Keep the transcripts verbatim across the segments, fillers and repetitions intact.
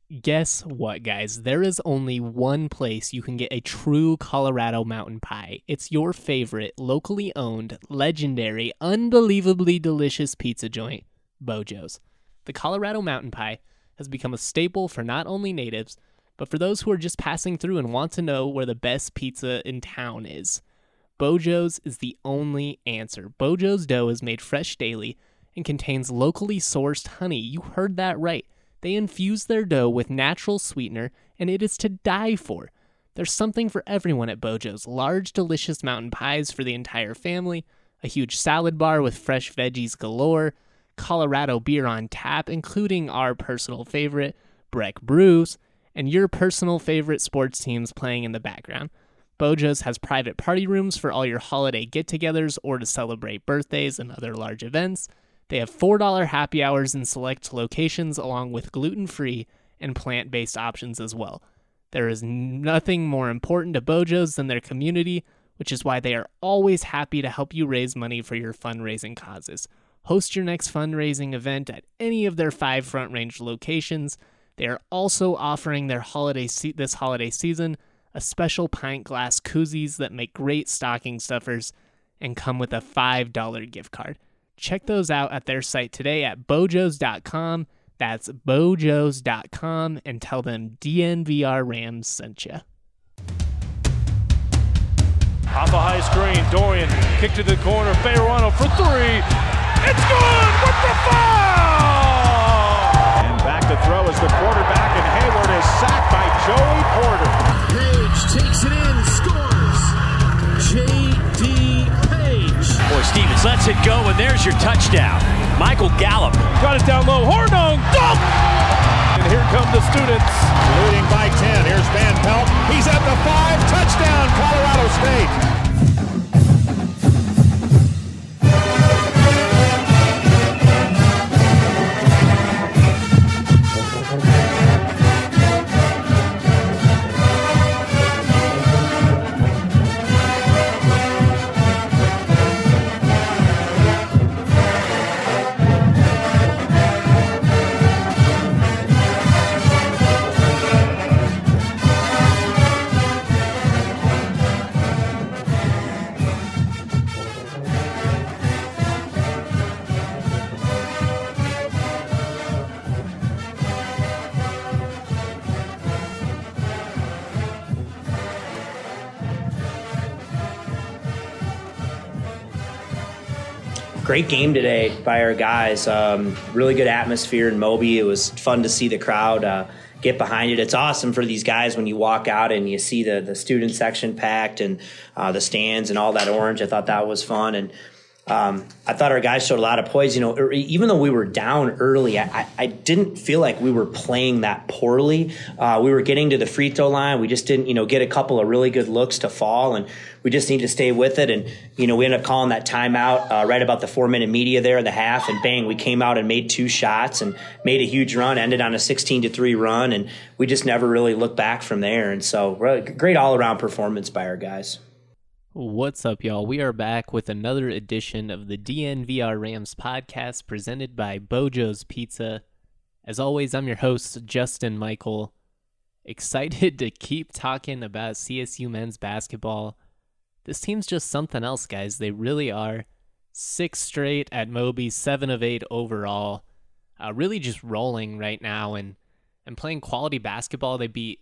Guess what, guys? There is only one place you can get a true Colorado mountain pie. It's your favorite, locally owned, legendary, unbelievably delicious pizza joint, Bojo's. The Colorado mountain pie has become a staple for not only natives, but for those who are just passing through and want to know where the best pizza in town is. Bojo's is the only answer. Bojo's dough is made fresh daily and contains locally sourced honey. You heard that right. They infuse their dough with natural sweetener, and it is to die for. There's something for everyone at Bojo's. Large, delicious mountain pies for the entire family, a huge salad bar with fresh veggies galore, Colorado beer on tap, including our personal favorite, Breck Brews, and your personal favorite sports teams playing in the background. Bojo's has private party rooms for all your holiday get-togethers or to celebrate birthdays and other large events. They have four dollars happy hours in select locations, along with gluten-free and plant-based options as well. There is nothing more important to Bojo's than their community, which is why they are always happy to help you raise money for your fundraising causes. Host your next fundraising event at any of their five Front Range locations. They are also offering their holiday se- this holiday season a special pint glass koozies that make great stocking stuffers and come with a five dollars gift card. Check those out at their site today at bojos dot com. That's bojos dot com, and tell them D N V R Rams sent you. Off a high screen, Dorian kick to the corner, Fayerano for three. It's good with the foul! And back to throw is the quarterback, and Hayward is sacked by Joey Porter. Page takes it in, scores. J D Page. Boy, Stevens lets it go, and there's your touchdown. Michael Gallup. Got it down low, Hornung, dunk! And here come the students. Leading by ten, here's Van Pelt. He's at the five, touchdown, Colorado State. Great game today by our guys. Um, really good atmosphere in Moby. It was fun to see the crowd uh, get behind it. It's awesome for these guys when you walk out and you see the, the student section packed and uh, the stands and all that orange. I thought that was fun. And um, I thought our guys showed a lot of poise. You know, even though we were down early, I, I didn't feel like we were playing that poorly. Uh, we were getting to the free throw line. We just didn't, you know, get a couple of really good looks to fall, and we just need to stay with it. And, you know, we ended up calling that timeout uh, right about the four-minute media there in the half, and bang, we came out and made two shots and made a huge run, ended on a sixteen to three run, and we just never really looked back from there. And so great all-around performance by our guys. What's up, y'all? We are back with another edition of the D N V R Rams podcast presented by Bojo's Pizza. As always, I'm your host, Justin Michael. Excited to keep talking about C S U men's basketball. This team's just something else, guys. They really are. Six straight at Moby, seven of eight overall. Uh, really just rolling right now and, and playing quality basketball. They beat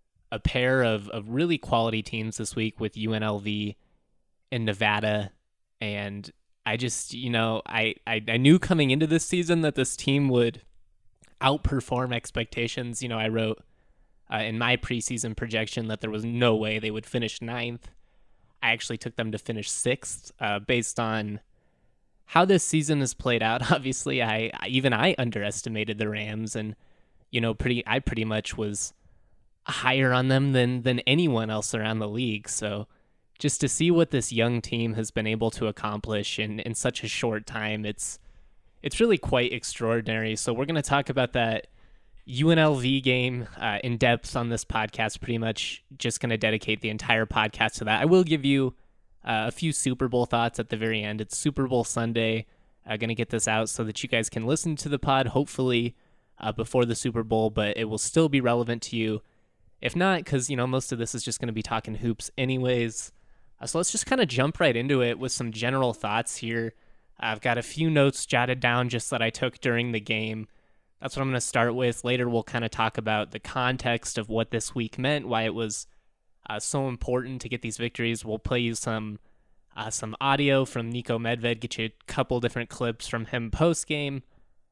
a pair of, of really quality teams this week with U N L V and Nevada. And I just, you know, I, I, I knew coming into this season that this team would outperform expectations. You know, I wrote uh, in my preseason projection that there was no way they would finish ninth. I actually took them to finish sixth uh, based on how this season has played out. Obviously, I even I underestimated the Rams, and you know, pretty I pretty much was higher on them than than anyone else around the league. So just to see what this young team has been able to accomplish in, in such a short time, it's it's really quite extraordinary. So we're going to talk about that U N L V game uh, in depth on this podcast. Pretty much just going to dedicate the entire podcast to that. I will give you uh, a few Super Bowl thoughts at the very end. It's Super Bowl Sunday. I'm uh, going to get this out so that you guys can listen to the pod, hopefully uh, before the Super Bowl, but it will still be relevant to you. If not, because, you know, most of this is just going to be talking hoops anyways. Uh, so let's just kind of jump right into it with some general thoughts here. I've got a few notes jotted down just that I took during the game. That's what I'm going to start with. Later, we'll kind of talk about the context of what this week meant, why it was uh, so important to get these victories. We'll play you some uh, some audio from Niko Medved, get you a couple different clips from him post-game.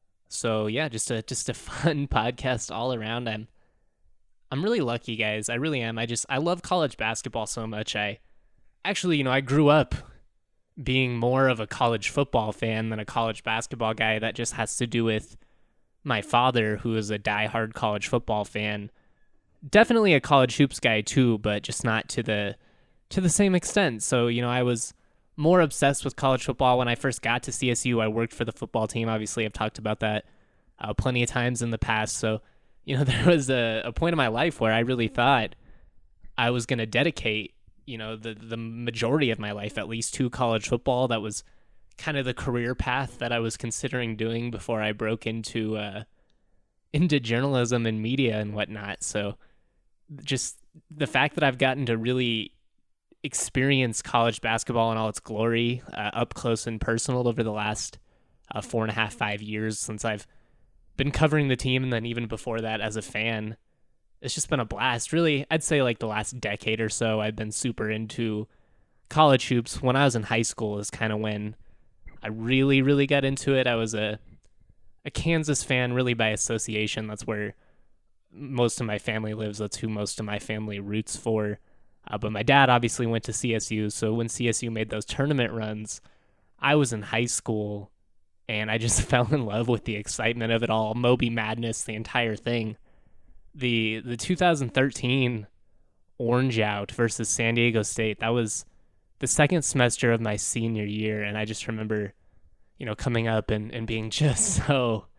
So yeah, just a just a fun podcast all around. I'm I'm really lucky, guys. I really am. I just I love college basketball so much. I actually, you know, I grew up being more of a college football fan than a college basketball guy. That just has to do with my father, who is a diehard college football fan. Definitely a college hoops guy too, but just not to the to the same extent. So, you know, I was more obsessed with college football when I first got to C S U. I worked for the football team. Obviously, I've talked about that uh, plenty of times in the past. So, you know, there was a, a point in my life where I really thought I was going to dedicate, you know, the the majority of my life at least to college football. That was kind of the career path that I was considering doing before I broke into uh, into journalism and media and whatnot. So just the fact that I've gotten to really experience college basketball in all its glory uh, up close and personal over the last uh, four and a half, five years since I've been covering the team, and then even before that as a fan, it's just been a blast. Really, I'd say like the last decade or so, I've been super into college hoops. When I was in high school is kind of when I really, really got into it. I was a a Kansas fan really by association. That's where most of my family lives. That's who most of my family roots for. Uh, but my dad obviously went to C S U. So when C S U made those tournament runs, I was in high school and I just fell in love with the excitement of it all. Moby Madness, the entire thing. The the two thousand thirteen Orange Out versus San Diego State, that was the second semester of my senior year, and I just remember, you know, coming up and, and being just so,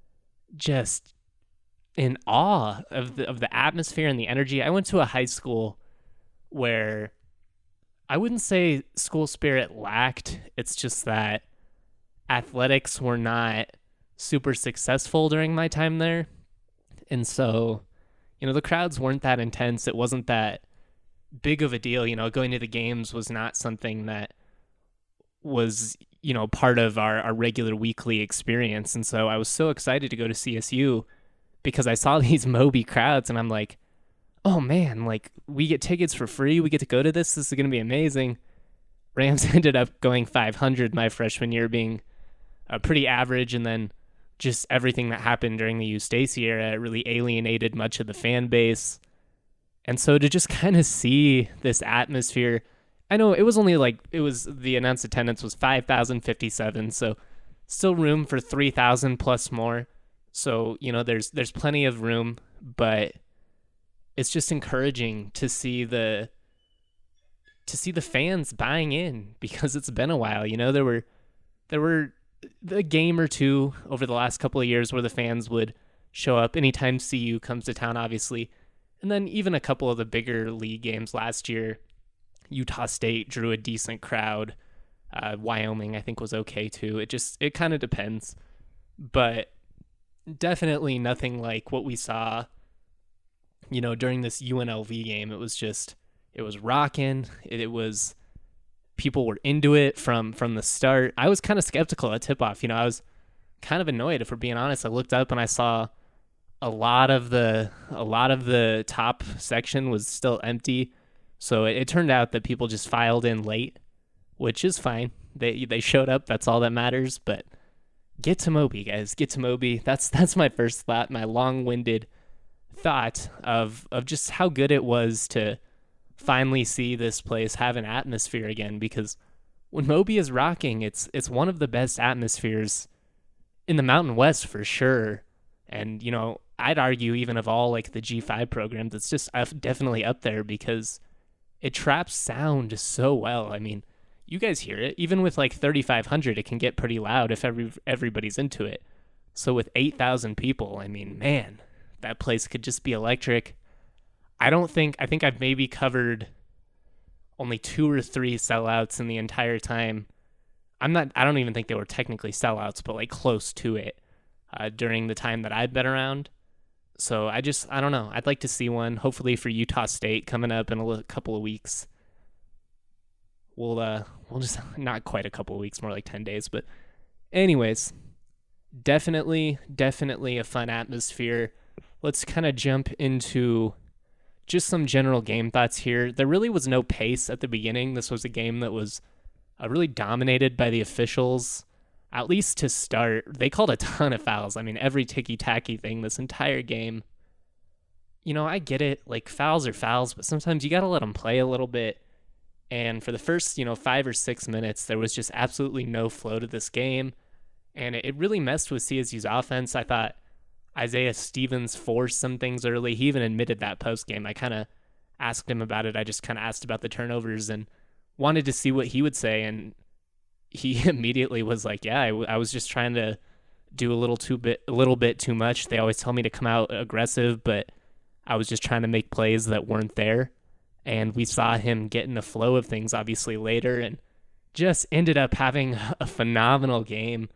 just in awe of the of the atmosphere and the energy. I went to a high school where I wouldn't say school spirit lacked. It's just that athletics were not super successful during my time there. And so, you know, the crowds weren't that intense. It wasn't that big of a deal. You know, going to the games was not something that was, you know, part of our, our regular weekly experience. And so I was so excited to go to C S U because I saw these Moby crowds and I'm like, oh man, like we get tickets for free. We get to go to this. This is going to be amazing. Rams ended up going five hundred my freshman year, being uh, pretty average. And then just everything that happened during the Eustace era really alienated much of the fan base. And so to just kind of see this atmosphere, I know it was only like, it was, the announced attendance was five thousand fifty-seven, so still room for three thousand plus more. So, you know, there's there's plenty of room, but it's just encouraging to see the to see the fans buying in because it's been a while. You know, there were there were a game or two over the last couple of years where the fans would show up anytime C U comes to town, obviously. And then even a couple of the bigger league games last year, Utah State drew a decent crowd. Uh, Wyoming, I think, was okay too. It just, it kind of depends. But definitely nothing like what we saw, you know, during this U N L V game. It was just, it was rocking. It, it was, people were into it from, from the start. I was kind of skeptical at tip-off. You know, I was kind of annoyed, if we're being honest. I looked up and I saw a lot of the a lot of the top section was still empty. So it, it turned out that people just filed in late, which is fine. They they showed up. That's all that matters. But get to Moby, guys. Get to Moby. That's that's my first thought, my long-winded thought of of just how good it was to finally see this place have an atmosphere again. Because when Moby is rocking, it's it's one of the best atmospheres in the Mountain West for sure. And, you know, I'd argue even of all like the G five programs, it's just definitely up there because it traps sound so well. I mean, you guys hear it. Even with like thirty-five hundred, it can get pretty loud if every everybody's into it. So with eight thousand people, I mean, man, that place could just be electric. I don't think, I think I've maybe covered only two or three sellouts in the entire time. I'm not, I don't even think they were technically sellouts, but like close to it. uh, during the time that I've been around. So I just, I don't know. I'd like to see one, hopefully for Utah State coming up in a little, couple of weeks. We'll, uh, we'll just, not quite a couple of weeks, more like ten days. But anyways, definitely, definitely a fun atmosphere. Let's kind of jump into just some general game thoughts here. There really was no pace at the beginning. This was a game that was uh, really dominated by the officials, at least to start. They called a ton of fouls. I mean, every ticky-tacky thing this entire game. You know, I get it. Like, fouls are fouls, but sometimes you got to let them play a little bit. And for the first, you know, five or six minutes, there was just absolutely no flow to this game. And it, it really messed with C S U's offense. I thought Isaiah Stevens forced some things early. He even admitted that post-game. I kind of asked him about it. I just kind of asked about the turnovers and wanted to see what he would say. And he immediately was like, yeah, I, w- I was just trying to do a little too bit, a little bit too much. They always tell me to come out aggressive, but I was just trying to make plays that weren't there. And we saw him get in the flow of things, obviously, later, and just ended up having a phenomenal game.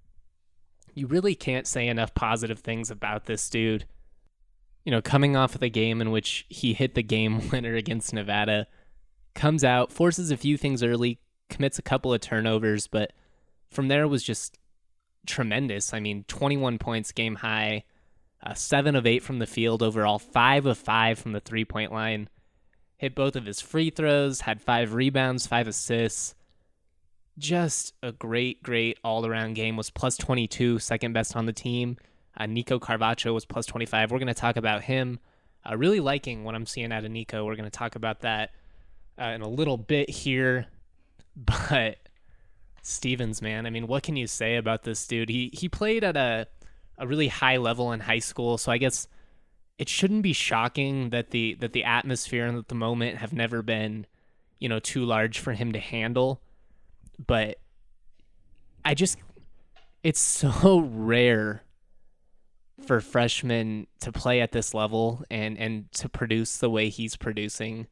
You really can't say enough positive things about this dude. You know, coming off of the game in which he hit the game winner against Nevada, comes out, forces a few things early, commits a couple of turnovers, but from there was just tremendous. I mean, twenty-one points game high, uh, seven of eight from the field overall, five of five from the three-point line. Hit both of his free throws, had five rebounds, five assists. Just a great, great all-around game. Was plus twenty-two, second best on the team. Uh, Nico Carvacho was plus twenty-five. We're going to talk about him. Uh, really liking what I'm seeing out of Nico. We're going to talk about that uh, in a little bit here. But Stevens, man, I mean, what can you say about this dude? He he played at a, a really high level in high school, so I guess it shouldn't be shocking that the that the atmosphere and that the moment have never been, you know, too large for him to handle. But I just, it's so rare for freshmen to play at this level and, and to produce the way he's producing.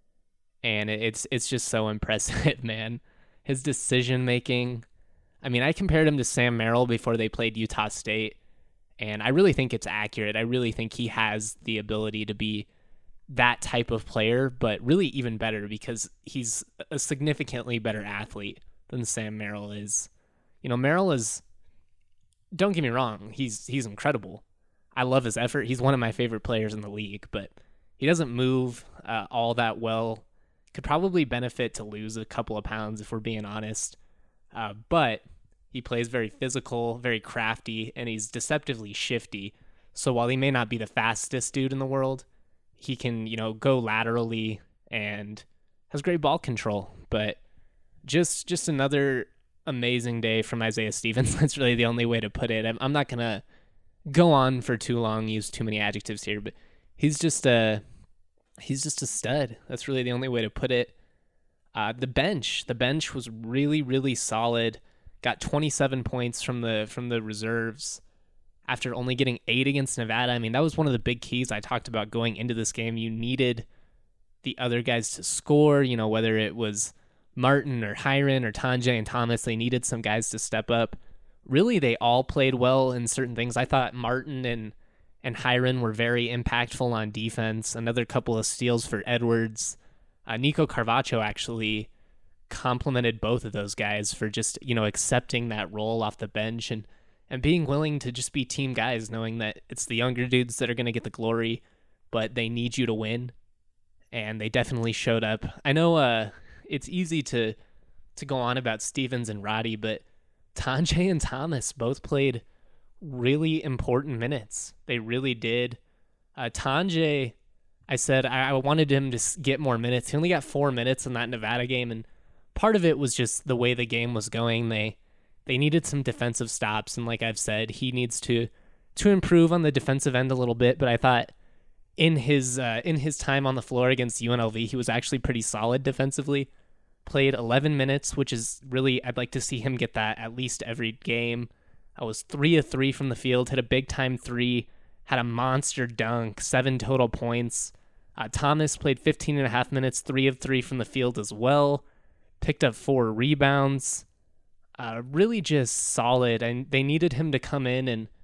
And it's it's just so impressive, man. His decision making. I mean, I compared him to Sam Merrill before they played Utah State, and I really think it's accurate. I really think he has the ability to be that type of player, but really even better because he's a significantly better athlete than Sam Merrill is. You know, Merrill is, don't get me wrong, he's he's incredible. I love his effort. He's one of my favorite players in the league, but he doesn't move uh, all that well. Could probably benefit to lose a couple of pounds if we're being honest. Uh, but he plays very physical, very crafty, and he's deceptively shifty. So while he may not be the fastest dude in the world, he can, you know, go laterally and has great ball control. But just just another amazing day from Isaiah Stevens. That's really the only way to put it. I'm, I'm not going to go on for too long, use too many adjectives here, but he's just a, he's just a stud. That's really the only way to put it. Uh, the bench, the bench was really, really solid. Got twenty-seven points from the from the reserves after only getting eight against Nevada. I mean, that was one of the big keys I talked about going into this game. You needed the other guys to score, you know, whether it was Martin or Hiron or Tanjay and Thomas, they needed some guys to step up. Really, they all played well in certain things. I thought Martin and, and Hiron were very impactful on defense. Another couple of steals for Edwards. Uh, Nico Carvacho actually complimented both of those guys for just, you know, accepting that role off the bench and, and being willing to just be team guys, knowing that it's the younger dudes that are going to get the glory, but they need you to win. And they definitely showed up. I know, uh, it's easy to to go on about Stevens and Roddy, but Tanjay and Thomas both played really important minutes. They really did. Uh, Tanjay, I said I, I wanted him to get more minutes. He only got four minutes in that Nevada game, and part of it was just the way the game was going. They they needed some defensive stops, and like I've said, he needs to to improve on the defensive end a little bit. But I thought in his uh, in his time on the floor against U N L V, he was actually pretty solid defensively. Played eleven minutes, which is really, I'd like to see him get that at least every game. I was three of three from the field, hit a big time three, had a monster dunk, seven total points. Uh, Thomas played fifteen and a half minutes, three of three from the field as well. Picked up four rebounds. Uh, really just solid, and they needed him to come in and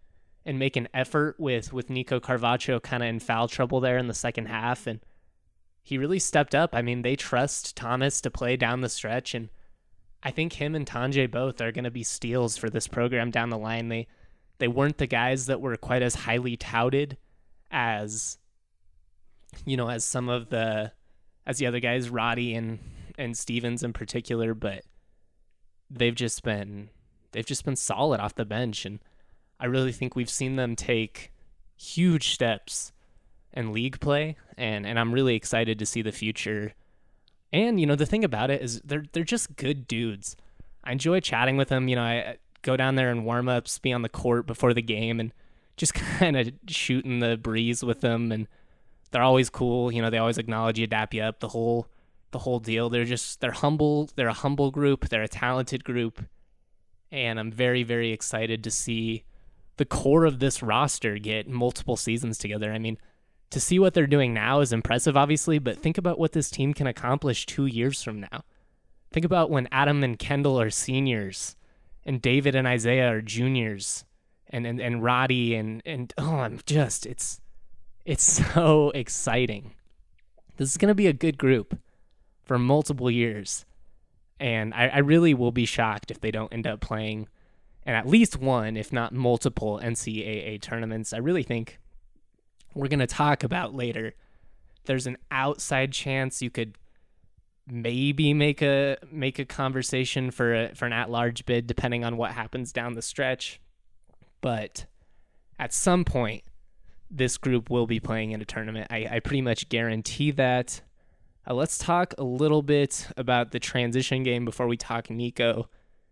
and make an effort with, with Nico Carvacho kind of in foul trouble there in the second half. And he really stepped up. I mean, they trust Thomas to play down the stretch, and I think him and Tanjay both are going to be steals for this program down the line. They they weren't the guys that were quite as highly touted as, you know, as some of the, as the other guys, Roddy and, and Stevens in particular, but they've just been, they've just been solid off the bench. And I really think we've seen them take huge steps in league play, and, and I'm really excited to see the future. And, you know, the thing about it is they're they're just good dudes. I enjoy chatting with them. You know, I go down there and warm-ups, be on the court before the game, and just kind of shooting the breeze with them. And they're always cool. You know, they always acknowledge you, dap you up, the whole the whole deal. They're just, they're humble. They're a humble group. They're a talented group. And I'm very, very excited to see the core of this roster get multiple seasons together. I mean, to see what they're doing now is impressive, obviously, but think about what this team can accomplish two years from now. Think about when Adam and Kendall are seniors, and David and Isaiah are juniors, and and, and Roddy and and oh, I'm just it's it's so exciting. This is gonna be a good group for multiple years, and I, I really will be shocked if they don't end up playing in at least one, if not multiple, N C double A tournaments. I really think we're going to talk about later, there's an outside chance you could maybe make a make a conversation for a, for an at-large bid, depending on what happens down the stretch. But at some point, this group will be playing in a tournament. I, I pretty much guarantee that. Uh, let's talk a little bit about the transition game before we talk Nico.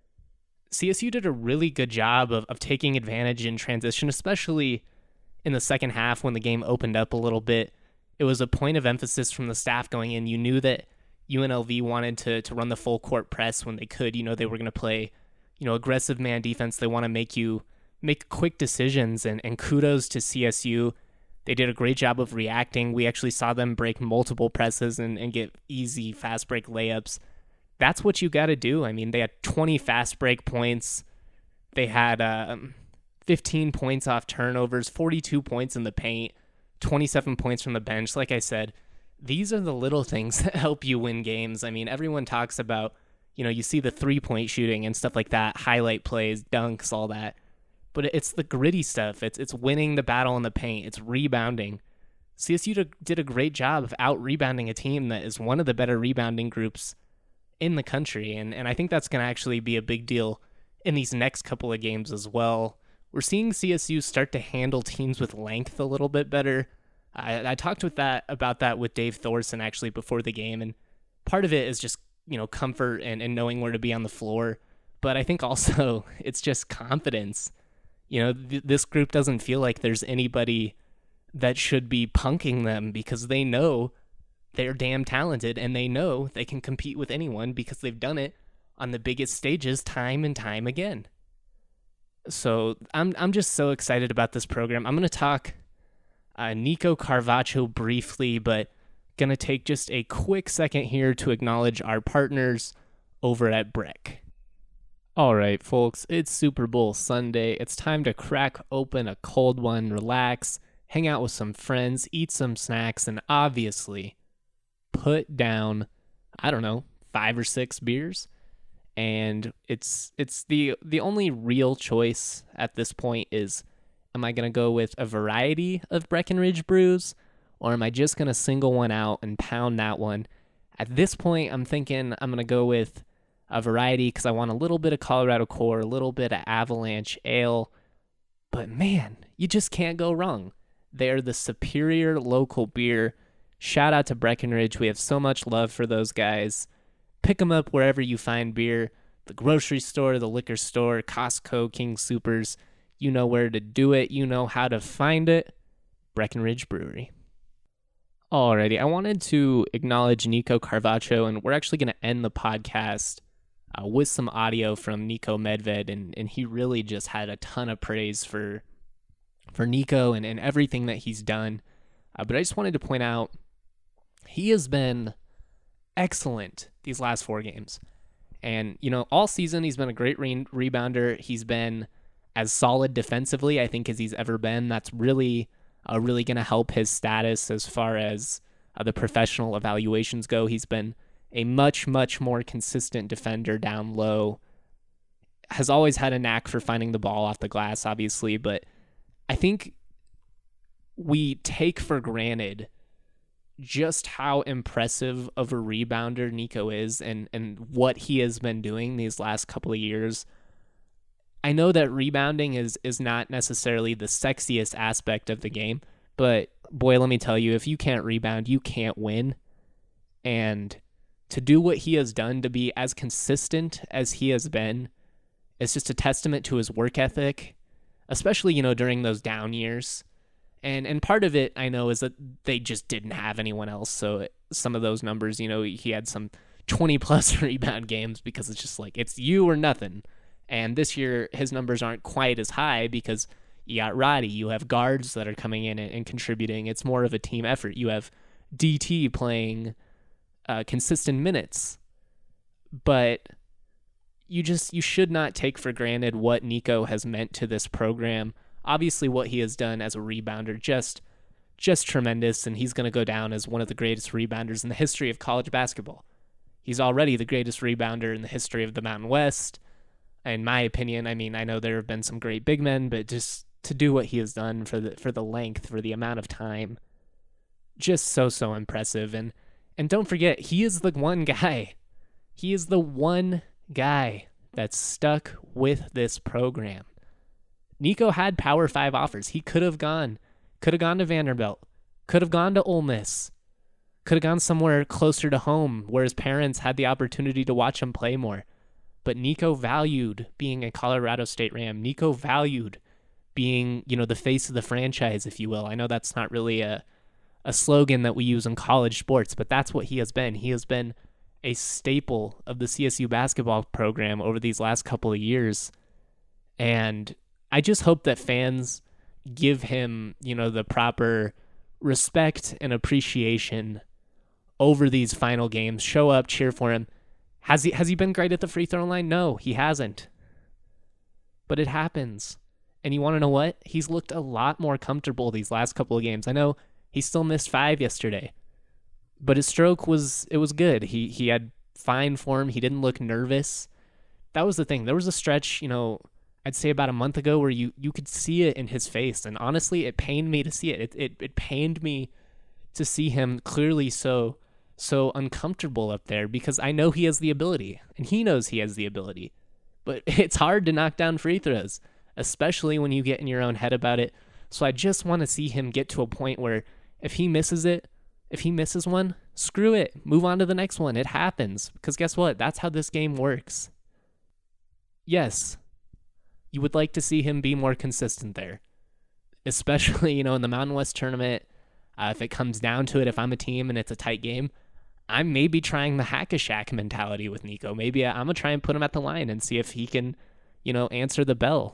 C S U did a really good job of, of taking advantage in transition, especially in the second half when the game opened up a little bit. It was a point of emphasis from the staff going in. You knew that U N L V wanted to to run the full court press when they could. You know, they were going to play, you know, aggressive man defense. They want to make you make quick decisions, and, and kudos to C S U. They did a great job of reacting. We actually saw them break multiple presses and, and get easy fast break layups. That's what you got to do. I mean, they had twenty fast break points. They had um, fifteen points off turnovers, forty-two points in the paint, twenty-seven points from the bench. Like I said, these are the little things that help you win games. I mean, everyone talks about, you know, you see the three-point shooting and stuff like that, highlight plays, dunks, all that. But it's the gritty stuff. It's it's winning the battle in the paint. It's rebounding. C S U did a great job of out-rebounding a team that is one of the better rebounding groups in the country. And, and I think that's going to actually be a big deal in these next couple of games as well. We're seeing C S U start to handle teams with length a little bit better. I, I talked with that about that with Dave Thorson actually before the game, and part of it is just, you know, comfort and, and knowing where to be on the floor. But I think also it's just confidence. You know, th- this group doesn't feel like there's anybody that should be punking them, because they know they're damn talented and they know they can compete with anyone because they've done it on the biggest stages time and time again. So I'm I'm just so excited about this program. I'm going to talk uh, Nico Carvacho briefly, but going to take just a quick second here to acknowledge our partners over at Brick. All right, folks, it's Super Bowl Sunday. It's time to crack open a cold one, relax, hang out with some friends, eat some snacks, and obviously put down, I don't know, five or six beers. And it's it's the the only real choice at this point is, am I going to go with a variety of Breckenridge brews, or am I just going to single one out and pound that one? At this point, I'm thinking I'm going to go with a variety because I want a little bit of Colorado Core, a little bit of Avalanche Ale. But man, you just can't go wrong. They're the superior local beer. Shout out to Breckenridge. We have so much love for those guys. Pick them up wherever you find beer. The grocery store, the liquor store, Costco, King Soopers. You know where to do it. You know how to find it. Breckenridge Brewery. Alrighty, I wanted to acknowledge Nico Carvacho, and we're actually going to end the podcast uh, with some audio from Nico Medved, and, and he really just had a ton of praise for for Nico and, and everything that he's done. Uh, but I just wanted to point out, he has been excellent these last four games. And, you know, all season he's been a great re- rebounder. He's been as solid defensively, I think, as he's ever been. That's really, uh, really going to help his status as far as uh, the professional evaluations go. He's been a much, much more consistent defender down low. Has always had a knack for finding the ball off the glass, obviously, but I think we take for granted just how impressive of a rebounder Nico is and, and what he has been doing these last couple of years. I know that rebounding is, is not necessarily the sexiest aspect of the game, but boy, let me tell you, if you can't rebound, you can't win. And to do what he has done, to be as consistent as he has been, it's just a testament to his work ethic, especially, you know, during those down years. And and part of it, I know, is that they just didn't have anyone else. So some of those numbers, you know, he had some twenty-plus rebound games because it's just like, it's you or nothing. And this year, his numbers aren't quite as high because you got Roddy. You have guards that are coming in and, and contributing. It's more of a team effort. You have D T playing uh, consistent minutes. But you just you should not take for granted what Nico has meant to this program. Obviously, what he has done as a rebounder, just just tremendous, and he's going to go down as one of the greatest rebounders in the history of college basketball. He's already the greatest rebounder in the history of the Mountain West, in my opinion. I mean, I know there have been some great big men, but just to do what he has done for the for the length, for the amount of time, just so, so impressive. And and don't forget, he is the one guy. He is the one guy that's stuck with this program. Nico had Power Five offers. He could have gone, could have gone to Vanderbilt, could have gone to Ole Miss, could have gone somewhere closer to home where his parents had the opportunity to watch him play more. But Nico valued being a Colorado State Ram. Nico valued being, you know, the face of the franchise, if you will. I know that's not really a, a slogan that we use in college sports, but that's what he has been. He has been a staple of the C S U basketball program over these last couple of years. And I just hope that fans give him, you know, the proper respect and appreciation over these final games. Show up, cheer for him. Has he has he been great at the free throw line? No, he hasn't. But it happens. And you want to know what? He's looked a lot more comfortable these last couple of games. I know he still missed five yesterday, but his stroke was it was good. He he had fine form. He didn't look nervous. That was the thing. There was a stretch, you know, I'd say about a month ago where you, you could see it in his face. And honestly, it pained me to see it. It, it. it pained me to see him clearly so, so uncomfortable up there because I know he has the ability and he knows he has the ability, but it's hard to knock down free throws, especially when you get in your own head about it. So I just want to see him get to a point where if he misses it, if he misses one, screw it. Move on to the next one. It happens because guess what? That's how this game works. Yes. You would like to see him be more consistent there, especially, you know, in the Mountain West tournament. Uh, if it comes down to it, if I'm a team and it's a tight game, I'm maybe trying the hack-a-shack mentality with Nico. Maybe I'm going to try and put him at the line and see if he can, you know, answer the bell.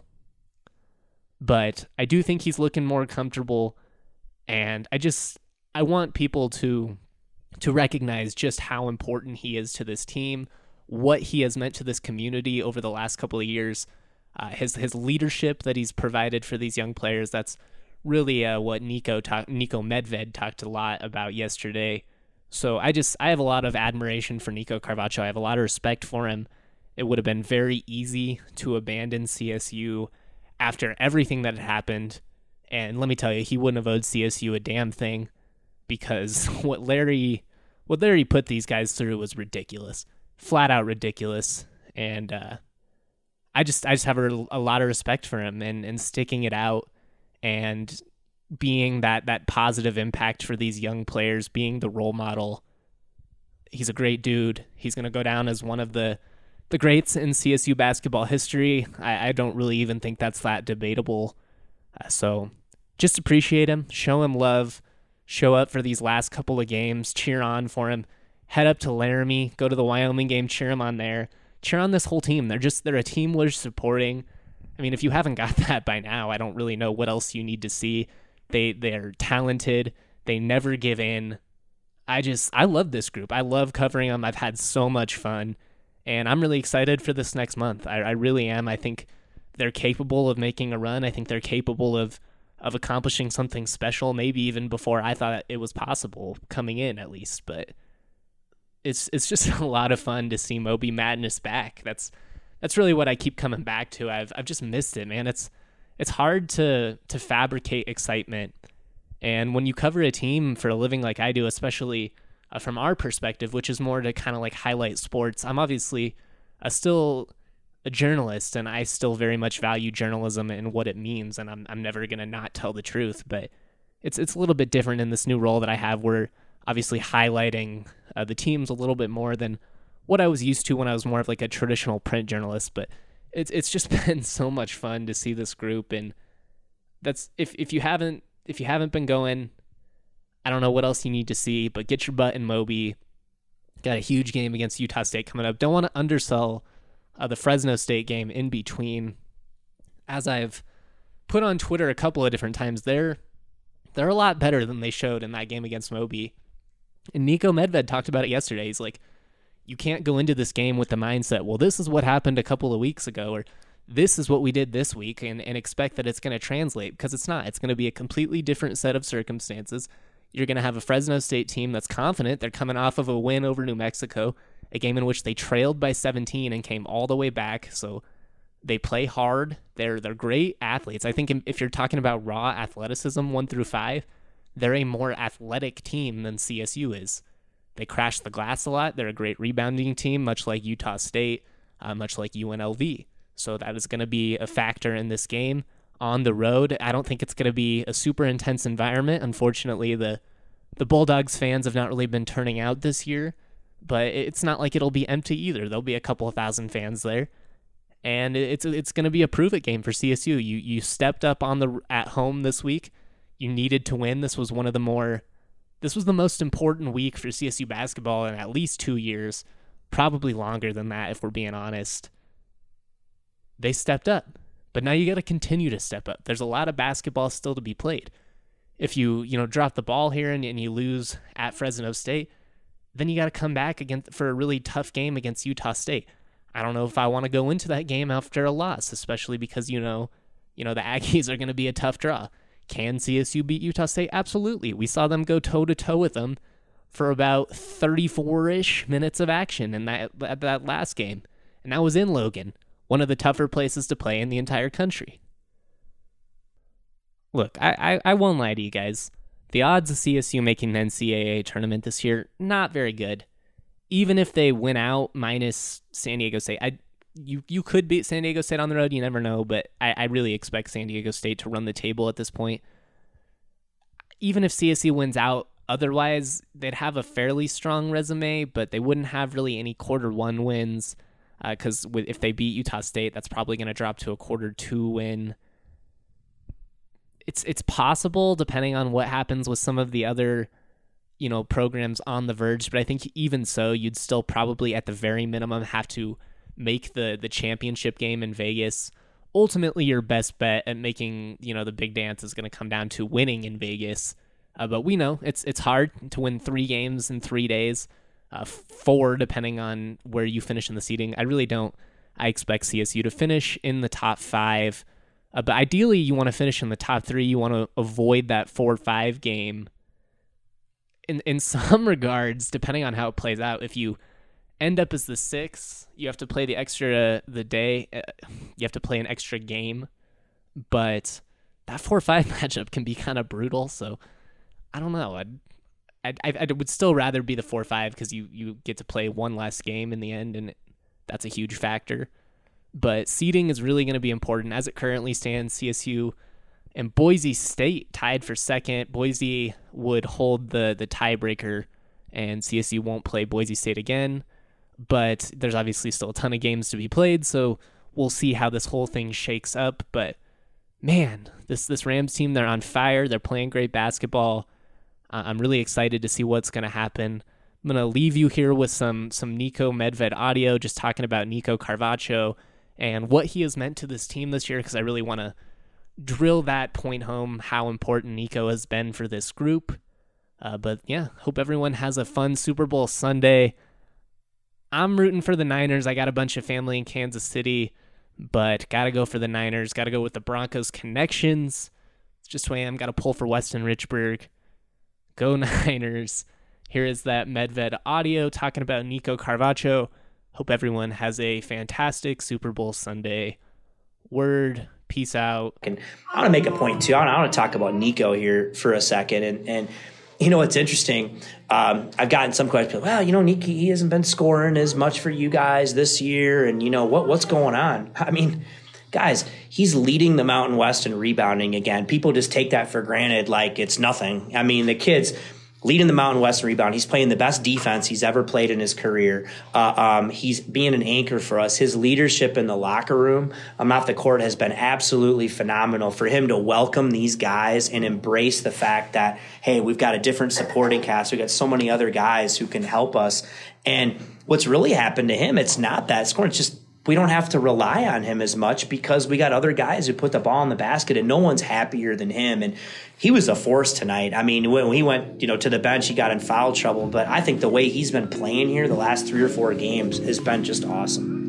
But I do think he's looking more comfortable, and I just, I want people to, to recognize just how important he is to this team, what he has meant to this community over the last couple of years. Uh, his his leadership that he's provided for these young players, that's really uh, what Nico talk, Nico Medved talked a lot about yesterday. So I just I have a lot of admiration for Nico Carvacho. I have a lot of respect for him. It would have been very easy to abandon C S U after everything that had happened. And let me tell you, he wouldn't have owed C S U a damn thing because what Larry what Larry put these guys through was ridiculous. Flat out ridiculous. And uh I just I just have a, a lot of respect for him and, and sticking it out and being that that positive impact for these young players, being the role model. He's a great dude. He's going to go down as one of the, the greats in C S U basketball history. I, I don't really even think that's that debatable. Uh, so just appreciate him, show him love, show up for these last couple of games, cheer on for him, head up to Laramie, go to the Wyoming game, cheer him on there. Cheer on this whole team. They're just, they're a team worth supporting. I mean, if you haven't got that by now, I don't really know what else you need to see. They, they're talented. They never give in. I just, I love this group. I love covering them. I've had so much fun and I'm really excited for this next month. I, I really am. I think they're capable of making a run. I think they're capable of of accomplishing something special, maybe even before I thought it was possible coming in, at least. But it's it's just a lot of fun to see Moby Madness back. That's that's really what I keep coming back to. I've I've just missed it, man. It's it's hard to to fabricate excitement, and when you cover a team for a living like I do, especially uh, from our perspective, which is more to kind of like highlight sports. I'm obviously uh, still a journalist, and I still very much value journalism and what it means, and I'm I'm never gonna not tell the truth. But it's it's a little bit different in this new role that I have, where obviously highlighting uh, the teams a little bit more than what I was used to when I was more of like a traditional print journalist. But it's it's just been so much fun to see this group, and that's if if you haven't if you haven't been going, I don't know what else you need to see, but get your butt in Moby. Got a huge game against Utah State coming up. Don't want to undersell Uh, the Fresno State game in between. As I've put on Twitter a couple of different times, they're they're a lot better than they showed in that game against Moby. And Nico Medved talked about it yesterday. He's like, you can't go into this game with the mindset, well, this is what happened a couple of weeks ago, or this is what we did this week, and, and expect that it's going to translate, because it's not. It's going to be a completely different set of circumstances. You're going to have a Fresno State team that's confident. They're coming off of a win over New Mexico, a game in which they trailed by seventeen and came all the way back. So they play hard. They're they're great athletes. I think if you're talking about raw athleticism, one through five, they're a more athletic team than C S U is. They crash the glass a lot. They're a great rebounding team, much like Utah State, uh, much like U N L V. So that is going to be a factor in this game on the road. I don't think it's going to be a super intense environment. Unfortunately, the the Bulldogs fans have not really been turning out this year. But it's not like it'll be empty either. There'll be a couple of thousand fans there, and it's it's going to be a prove-it game for C S U. You you stepped up on the at home this week. You needed to win. This was one of the more, this was the most important week for C S U basketball in at least two years, probably longer than that if we're being honest. They stepped up, but now you got to continue to step up. There's a lot of basketball still to be played. If you you know drop the ball here and, and you lose at Fresno State, then you got to come back again for a really tough game against Utah State. I don't know if I want to go into that game after a loss, especially because, you know, you know the Aggies are going to be a tough draw. Can C S U beat Utah State? Absolutely. We saw them go toe-to-toe with them for about thirty-four-ish minutes of action in that, that last game. And that was in Logan, one of the tougher places to play in the entire country. Look, I, I, I won't lie to you guys. The odds of C S U making the N C double A tournament this year, not very good. Even if they win out minus San Diego State, I you you could beat San Diego State on the road, you never know, but I, I really expect San Diego State to run the table at this point. Even if C S U wins out, otherwise, they'd have a fairly strong resume, but they wouldn't have really any quarter one wins, because uh, if they beat Utah State, that's probably going to drop to a quarter two win. It's it's possible, depending on what happens with some of the other, you know, programs on the verge. But I think even so, you'd still probably, at the very minimum, have to make the the championship game in Vegas. Ultimately, your best bet at making, you know, the big dance is going to come down to winning in Vegas. Uh, but we know it's it's hard to win three games in three days, uh, four depending on where you finish in the seeding. I really don't. I expect C S U to finish in the top five. Uh, but ideally, you want to finish in the top three. You want to avoid that four five game. In in some regards, depending on how it plays out, if you end up as the six, you have to play the extra the day. Uh, you have to play an extra game. But that four five matchup can be kind of brutal. So I don't know. I'd, I'd, I would still rather be the four five because you, you get to play one less game in the end, and that's a huge factor. But seeding is really going to be important. As it currently stands, C S U and Boise State tied for second. Boise would hold the, the tiebreaker, and C S U won't play Boise State again. But there's obviously still a ton of games to be played, so we'll see how this whole thing shakes up. But, man, this, this Rams team, they're on fire. They're playing great basketball. Uh, I'm really excited to see what's going to happen. I'm going to leave you here with some, some Nico Medved audio, just talking about Nico Carvacho and what he has meant to this team this year, because I really want to drill that point home, how important Nico has been for this group. Uh, but yeah, hope everyone has a fun Super Bowl Sunday. I'm rooting for the Niners. I got a bunch of family in Kansas City. but gotta go for the Niners. Gotta go with the Broncos connections. It's just who I am. Gotta pull for Weston Richburg. Go Niners. Here is that Medved audio talking about Nico Carvacho. Hope everyone has a fantastic Super Bowl Sunday. Word. Peace out. And I want to make a point too. I want to talk about Nico here for a second. And, and you know, it's interesting. Um, I've gotten some questions. Well, you know, Nico, he hasn't been scoring as much for you guys this year. And, you know, what what's going on? I mean, guys, he's leading the Mountain West in rebounding again. People just take that for granted like it's nothing. I mean, the kid's leading the Mountain West in rebound. He's playing the best defense he's ever played in his career. Uh, um, he's being an anchor for us. His leadership in the locker room, um, off the court, has been absolutely phenomenal. For him to welcome these guys and embrace the fact that, hey, we've got a different supporting cast. We've got so many other guys who can help us. And what's really happened to him, it's not that scoring. It's just we don't have to rely on him as much because we got other guys who put the ball in the basket, and no one's happier than him. And he was a force tonight. I mean, when he went, you know, to the bench, he got in foul trouble. But I think the way he's been playing here the last three or four games has been just awesome.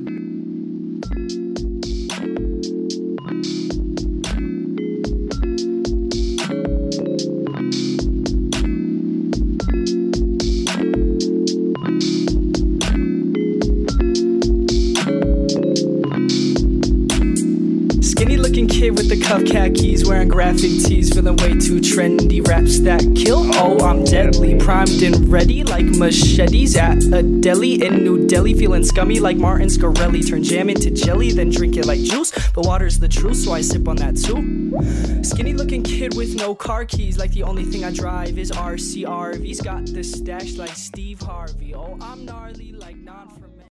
Kid with the cuff khakis, wearing graphic tees, feeling way too trendy. Raps that kill, oh I'm deadly. Primed and ready like machetes at a deli in New Delhi. Feeling scummy like Martin Scarelli. Turn jam into jelly, then drink it like juice. But water's the truth, so I sip on that too. Skinny looking kid with no car keys, like the only thing I drive is R C R V's. Got the stash like Steve Harvey. Oh I'm gnarly like non